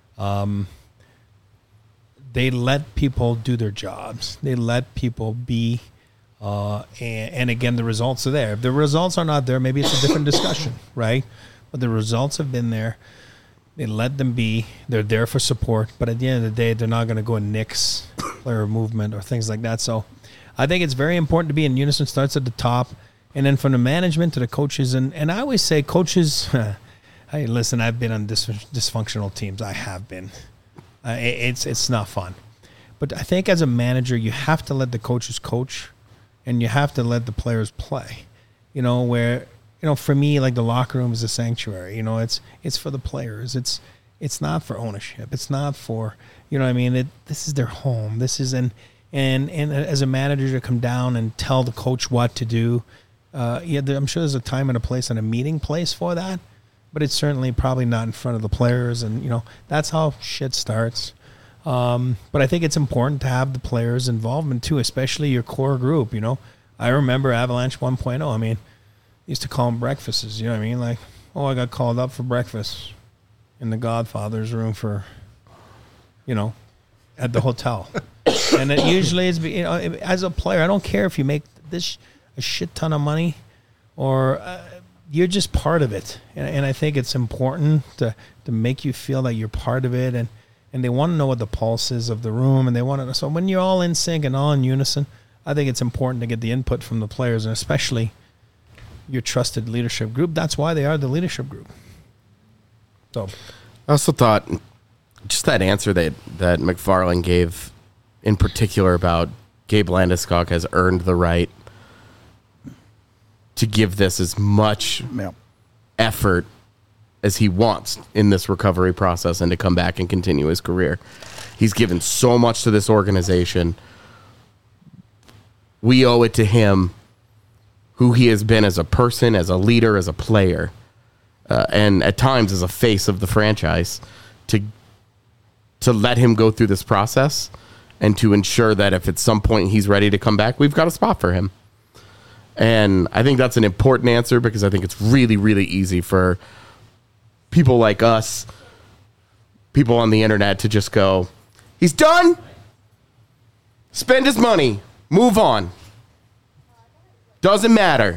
They let people do their jobs. They let people be, and again, the results are there. If the results are not there, maybe it's a different discussion, right? But the results have been there. They let them be. They're there for support. But at the end of the day, they're not going to go and nix player movement or things like that. So I think it's very important to be in unison. Starts at the top. And then from the management to the coaches. And I always say coaches, hey, listen, I've been on dysfunctional teams. I have been. It's not fun. But I think as a manager, you have to let the coaches coach and you have to let the players play. For me, like the locker room is a sanctuary. It's for the players. It's not for ownership. It's not for, this is their home. This is and as a manager to come down and tell the coach what to do. I'm sure there's a time and a place and a meeting place for that, but it's certainly probably not in front of the players. And that's how shit starts. But I think it's important to have the players' involvement too, especially your core group. I remember Avalanche 1.0. I mean, used to call them breakfasts, you know what I mean? Like, I got called up for breakfast in the Godfather's room for, at the hotel. And it usually is, as a player, I don't care if you make a shit ton of money or you're just part of it. And I think it's important to make you feel that you're part of it. And they want to know what the pulse is of the room. And they want to know. So when you're all in sync and all in unison, I think it's important to get the input from the players and especially your trusted leadership group. That's why they are the leadership group. So, I also thought just that answer that McFarland gave in particular about Gabe Landeskog has earned the right to give this as much effort as he wants in this recovery process and to come back and continue his career. He's given so much to this organization. We owe it to him who he has been as a person, as a leader, as a player, and at times as a face of the franchise, to let him go through this process and to ensure that if at some point he's ready to come back, we've got a spot for him. And I think that's an important answer because I think it's really, really easy for people like us, people on the internet, to just go, he's done, spend his money, move on. Doesn't matter.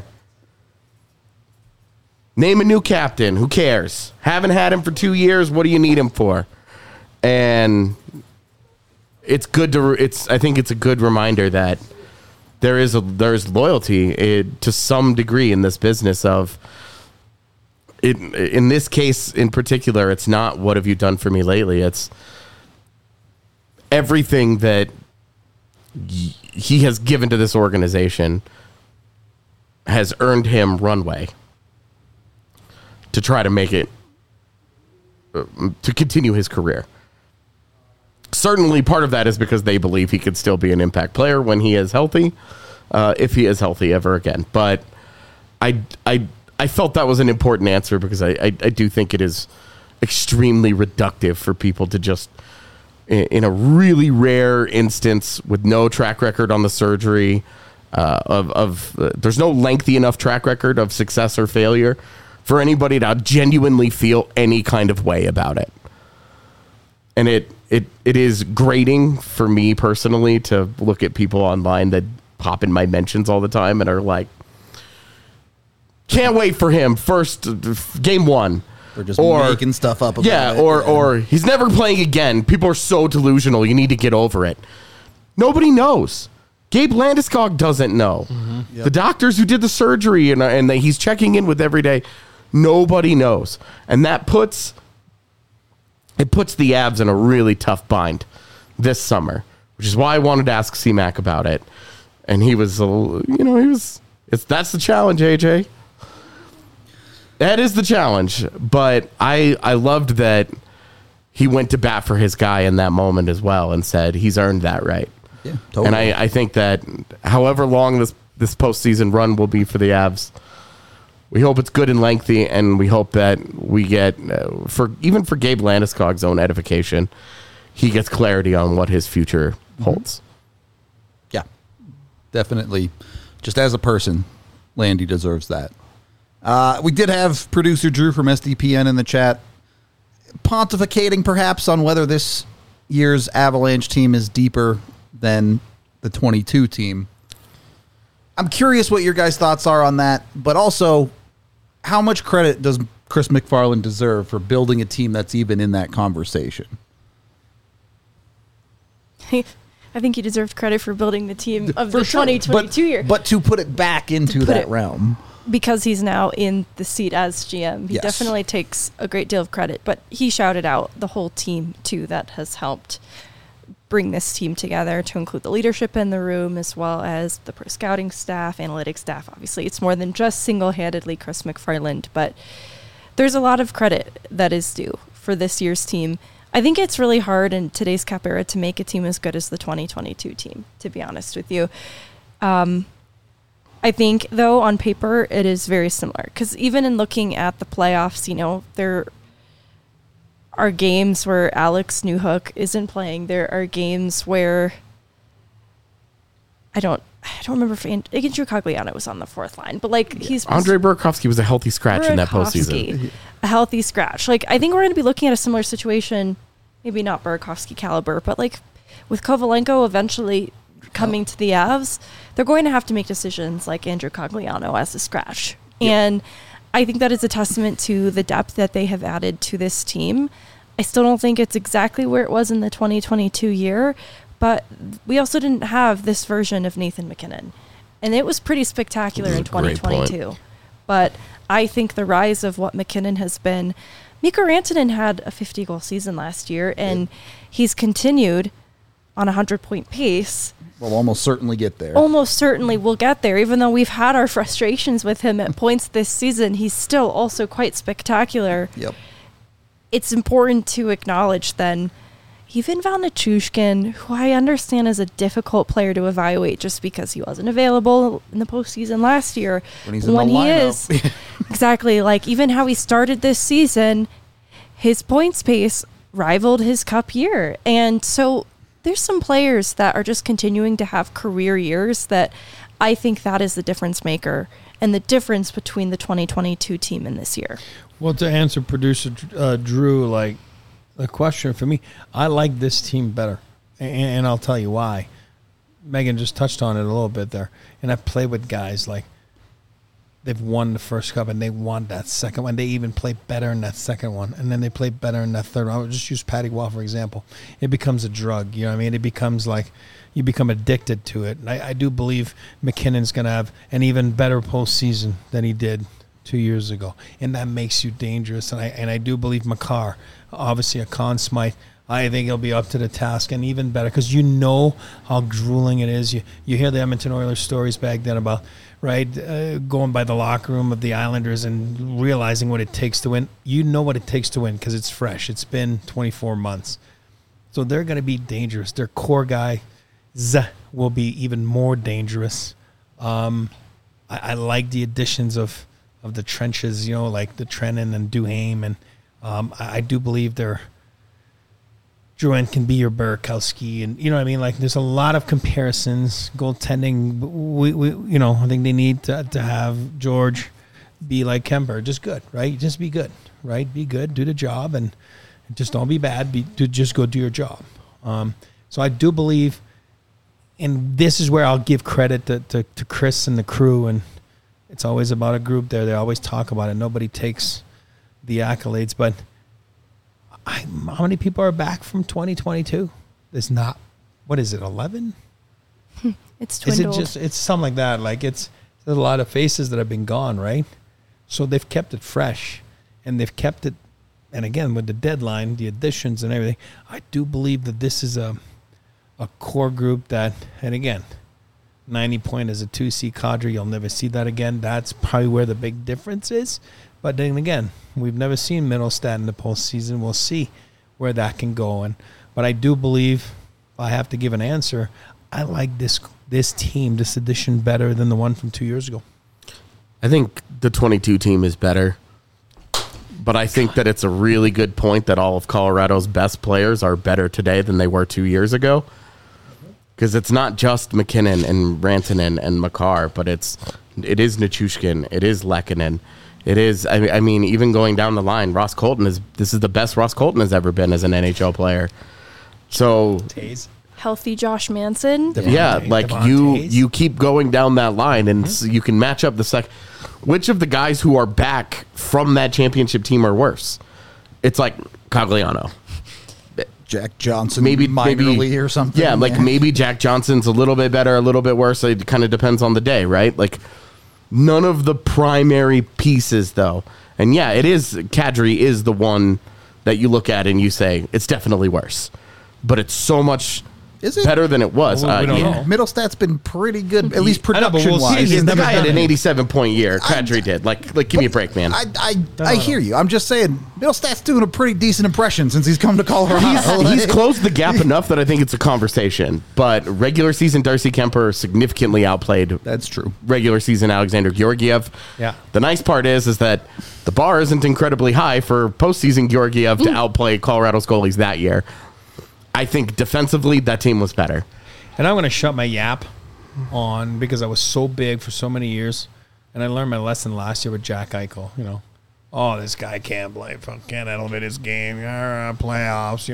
Name a new captain. Who cares? Haven't had him for 2 years. What do you need him for? And it's good I think it's a good reminder that there's loyalty to some degree in this business of it. In this case in particular, it's not what have you done for me lately. It's everything that he has given to this organization has earned him runway to try to make it, to continue his career. Certainly part of that is because they believe he could still be an impact player when he is healthy, if he is healthy ever again. But I felt that was an important answer because I do think it is extremely reductive for people to just, in a really rare instance with no track record on the surgery, there's no lengthy enough track record of success or failure for anybody to genuinely feel any kind of way about it. And it is grating for me personally to look at people online that pop in my mentions all the time and are like, can't wait for him first game one. Or just making stuff up about it. Or he's never playing again. People are so delusional. You need to get over it. Nobody knows. Gabe Landeskog doesn't know. Mm-hmm. Yep. The doctors who did the surgery and he's checking in with every day, nobody knows. And that puts the Avs in a really tough bind this summer, which is why I wanted to ask C-Mac about it. And he was, that's the challenge, AJ. That is the challenge. But I loved that he went to bat for his guy in that moment as well and said he's earned that right. Yeah, totally. And I think that however long this postseason run will be for the Avs, we hope it's good and lengthy, and we hope that we get, for Gabe Landeskog's own edification, he gets clarity on what his future holds. Yeah, definitely. Just as a person, Landy deserves that. We did have producer Drew from SDPN in the chat pontificating perhaps on whether this year's Avalanche team is deeper than the 22 team. I'm curious what your guys' thoughts are on that, but also how much credit does Chris McFarland deserve for building a team that's even in that conversation? I think he deserved credit for building the team of the 2022 year. But to put it back into that realm. Because he's now in the seat as GM. He definitely takes a great deal of credit, but he shouted out the whole team, too, that has helped bring this team together, to include the leadership in the room as well as the pro scouting staff, analytics staff. Obviously, it's more than just single-handedly Chris McFarland, but there's a lot of credit that is due for this year's team. I think it's really hard in today's Cap era to make a team as good as the 2022 team, to be honest with you. I think, though, on paper, it is very similar. Because even in looking at the playoffs, there are games where Alex Newhook isn't playing. There are games where I don't remember if Andrew Cogliano was on the fourth line, but he's Andre Burakovsky was a healthy scratch in that postseason. A healthy scratch. I think we're going to be looking at a similar situation, maybe not Burakovsky caliber, but with Kovalenko eventually coming to the Avs, they're going to have to make decisions like Andrew Cogliano as a scratch. Yep. And I think that is a testament to the depth that they have added to this team. I still don't think it's exactly where it was in the 2022 year, but we also didn't have this version of Nathan MacKinnon. And it was pretty spectacular in 2022. But I think the rise of what MacKinnon has been, Mikko Rantanen had a 50-goal season last year, and he's continued on a 100-point pace. We'll almost certainly get there. Almost certainly we'll get there. Even though we've had our frustrations with him at points this season, he's still also quite spectacular. Yep. It's important to acknowledge then, even Val Nichushkin, who I understand is a difficult player to evaluate just because he wasn't available in the postseason last year. When he is. Exactly. Even how he started this season, his points pace rivaled his cup year. And so there's some players that are just continuing to have career years that I think that is the difference maker and the difference between the 2022 team and this year. Well, to answer producer Drew, the question for me, I like this team better, and I'll tell you why. Megan just touched on it a little bit there, and I've played with guys they've won the first cup and they won that second one. They even play better in that second one, and then they play better in that third one. I would just use Patty Waugh, for example. It becomes a drug, you know what I mean? It becomes you become addicted to it. And I do believe McKinnon's going to have an even better postseason than he did 2 years ago, and that makes you dangerous. And I do believe Makar, obviously a Conn Smythe, I think he'll be up to the task and even better because you know how grueling it is. You hear the Edmonton Oilers stories back then about going by the locker room of the Islanders and realizing what it takes to win. You know what it takes to win because it's fresh. It's been 24 months. So they're going to be dangerous. Their core guy will be even more dangerous. I like the additions of the trenches, like the Trennan and Duhaime, and I do believe Drouin can be your Burakovsky, and you know what I mean. There's a lot of comparisons. Goaltending, we I think they need to have George be like Kemper, just good, right? Just be good, right? Be good, do the job, and just don't be bad. Just go do your job. So I do believe, and this is where I'll give credit to Chris and the crew, and it's always about a group there. They always talk about it. Nobody takes the accolades, but how many people are back from 2022? There's not. What is it? 11? It's dwindled. It's something like that. Like there's a lot of faces that have been gone, right? So they've kept it fresh, and they've kept it. And again, with the deadline, the additions and everything, I do believe that this is a core group that, and again, 90 point as a 2C cadre, you'll never see that again. That's probably where the big difference is. But then again, we've never seen Middlestat in the postseason. We'll see where that can go. But I do believe, if I have to give an answer, I like this team, this edition, better than the one from 2 years ago. I think the 22 team is better. But I think that it's a really good point that all of Colorado's best players are better today than they were 2 years ago. Because it's not just McKinnon and Rantanen and Makar, but it is Nichushkin, it is Lehkonen, it is. I mean, even going down the line, Ross Colton this is the best Ross Colton has ever been as an NHL player. So Healthy Josh Manson. You keep going down that line, and you can match up the second. Which of the guys who are back from that championship team are worse? It's like Cogliano. Jack Johnson, maybe minorly or something. Yeah, maybe Jack Johnson's a little bit better, a little bit worse. It kind of depends on the day, right? Like, none of the primary pieces, though. And yeah, it is. Kadri is the one that you look at and you say, it's definitely worse. But it's so much better than it was. Well, we don't know. Middlestat's been pretty good, at least I know, but we'll production-wise. see. The guy had an 87-point year. Kadri did. Like, give me a break, man. I hear you. I'm just saying, Middlestat's doing a pretty decent impression since he's come to Colorado. He's closed the gap enough that I think it's a conversation. But regular season Darcy Kemper significantly outplayed. That's true. Regular season Alexander Georgiev. Yeah. The nice part is that the bar isn't incredibly high for postseason Georgiev to outplay Colorado's goalies that year. I think defensively that team was better. And I'm going to shut my yap on because I was so big for so many years. And I learned my lesson last year with Jack Eichel. Oh, this guy can't play. Can't elevate his game. Playoffs,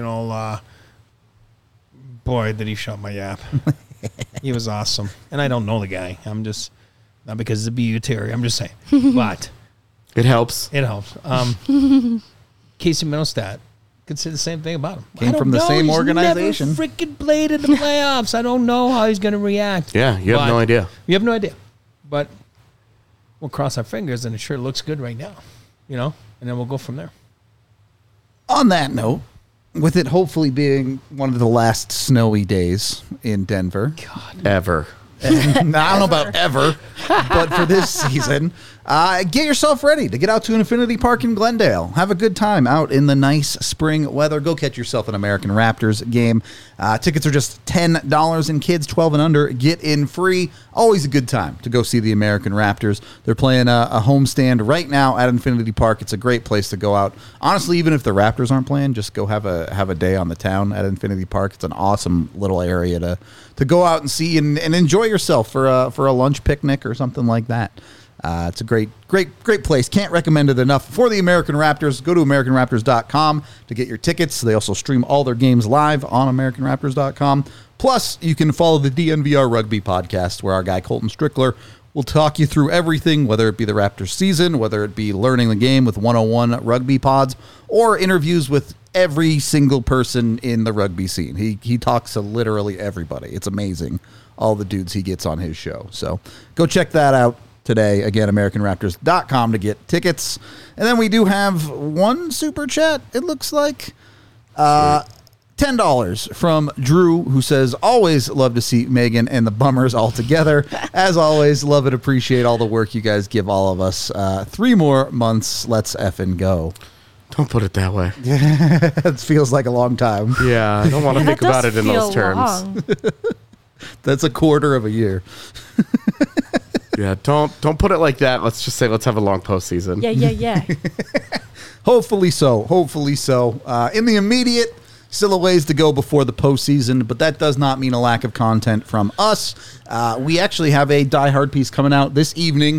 boy, did he shut my yap. He was awesome. And I don't know the guy. I'm just, not because of the BU Terry. I'm just saying. But it helps. It helps. Casey Middlestat. Could say the same thing about him. Came from the same organization. He's never freaking played in the playoffs. I don't know how he's going to react. Yeah, you have no idea. You have no idea. But we'll cross our fingers, and it sure looks good right now. And then we'll go from there. On that note, with it hopefully being one of the last snowy days in Denver. Ever. I don't know about ever, but for this season, get yourself ready to get out to Infinity Park in Glendale. Have a good time out in the nice spring weather. Go catch yourself an American Raptors game. Tickets are just $10, and kids 12 and under get in free. Always a good time to go see the American Raptors. They're playing a homestand right now at Infinity Park. It's a great place to go out. Honestly, even if the Raptors aren't playing, just go have a day on the town at Infinity Park. It's an awesome little area to go out and see and enjoy yourself for a lunch picnic or something like that. It's a great place. Can't recommend it enough. For the American Raptors, go to AmericanRaptors.com to get your tickets. They also stream all their games live on AmericanRaptors.com. Plus, you can follow the DNVR Rugby podcast, where our guy Colton Strickler will talk you through everything, whether it be the Raptors season, whether it be learning the game with 101 rugby pods, or interviews with every single person in the rugby scene. He talks to literally everybody. It's amazing, all the dudes he gets on his show. So go check that out today. Again, AmericanRaptors.com to get tickets. And then we do have one super chat, it looks like. $10 from Drew, who says, always love to see Megan and the Bummers all together. As always, love and appreciate all the work you guys give all of us. 3 more months, let's effing go. Don't put it that way. It feels like a long time. Yeah, I don't want to think about it in those terms. That's a quarter of a year. Yeah, don't put it like that. Let's just say let's have a long postseason. Yeah. Hopefully so. In the immediate, still a ways to go before the postseason, but that does not mean a lack of content from us. We actually have a Die Hard piece coming out this evening.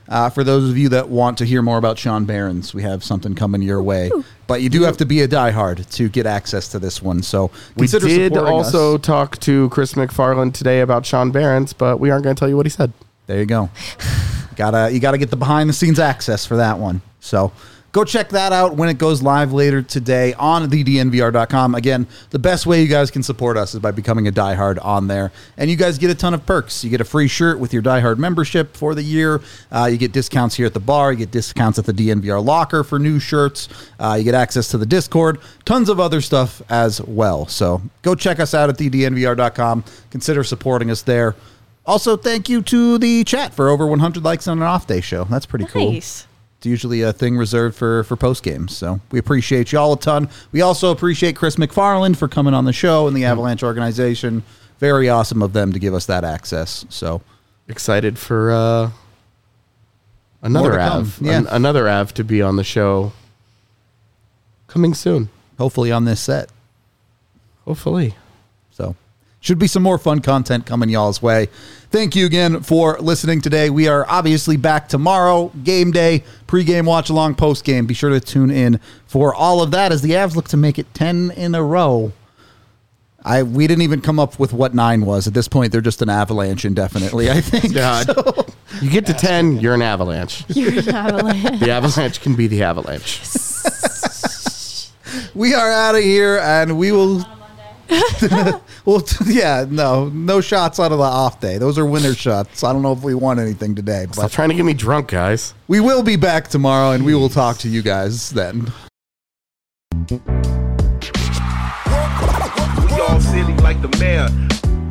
For those of you that want to hear more about Sean Barons, we have something coming your way. But you do have to be a diehard to get access to this one. So We consider did supporting also us. talk to Chris McFarland today about Sean Barons, but we aren't going to tell you what he said. There you go. You gotta get the behind the scenes access for that one. So go check that out when it goes live later today on thednvr.com. Again, the best way you guys can support us is by becoming a diehard on there. And you guys get a ton of perks. You get a free shirt with your diehard membership for the year. You get discounts here at the bar. You get discounts at the DNVR locker for new shirts. You get access to the Discord. Tons of other stuff as well. So go check us out at thednvr.com. Consider supporting us there. Also, thank you to the chat for over 100 likes on an off-day show. That's pretty cool. Nice. It's usually a thing reserved for post games. So we appreciate y'all a ton. We also appreciate Chris McFarland for coming on the show and the Avalanche organization. Very awesome of them to give us that access. So Excited for another More to come. Av. Yeah. Another Av to be on the show coming soon. hopefully on this set. Hopefully. So should be some more fun content coming y'all's way. Thank you again for listening today. We are obviously back tomorrow, game day, pregame, watch along, postgame. Be sure to tune in for all of that as the Avs look to make it 10 in a row. We didn't even come up with what 9 was. At this point, they're just an Avalanche indefinitely, I think. God. So, You get to 10, you're an Avalanche. You're an avalanche. The Avalanche can be the Avalanche. we are out of here, and we will... no shots out of the off day. Those are winner shots. I don't know if we won anything today, Stop but trying to get me drunk, guys. we will be back tomorrow, and we will talk to you guys then. We all silly like the mayor.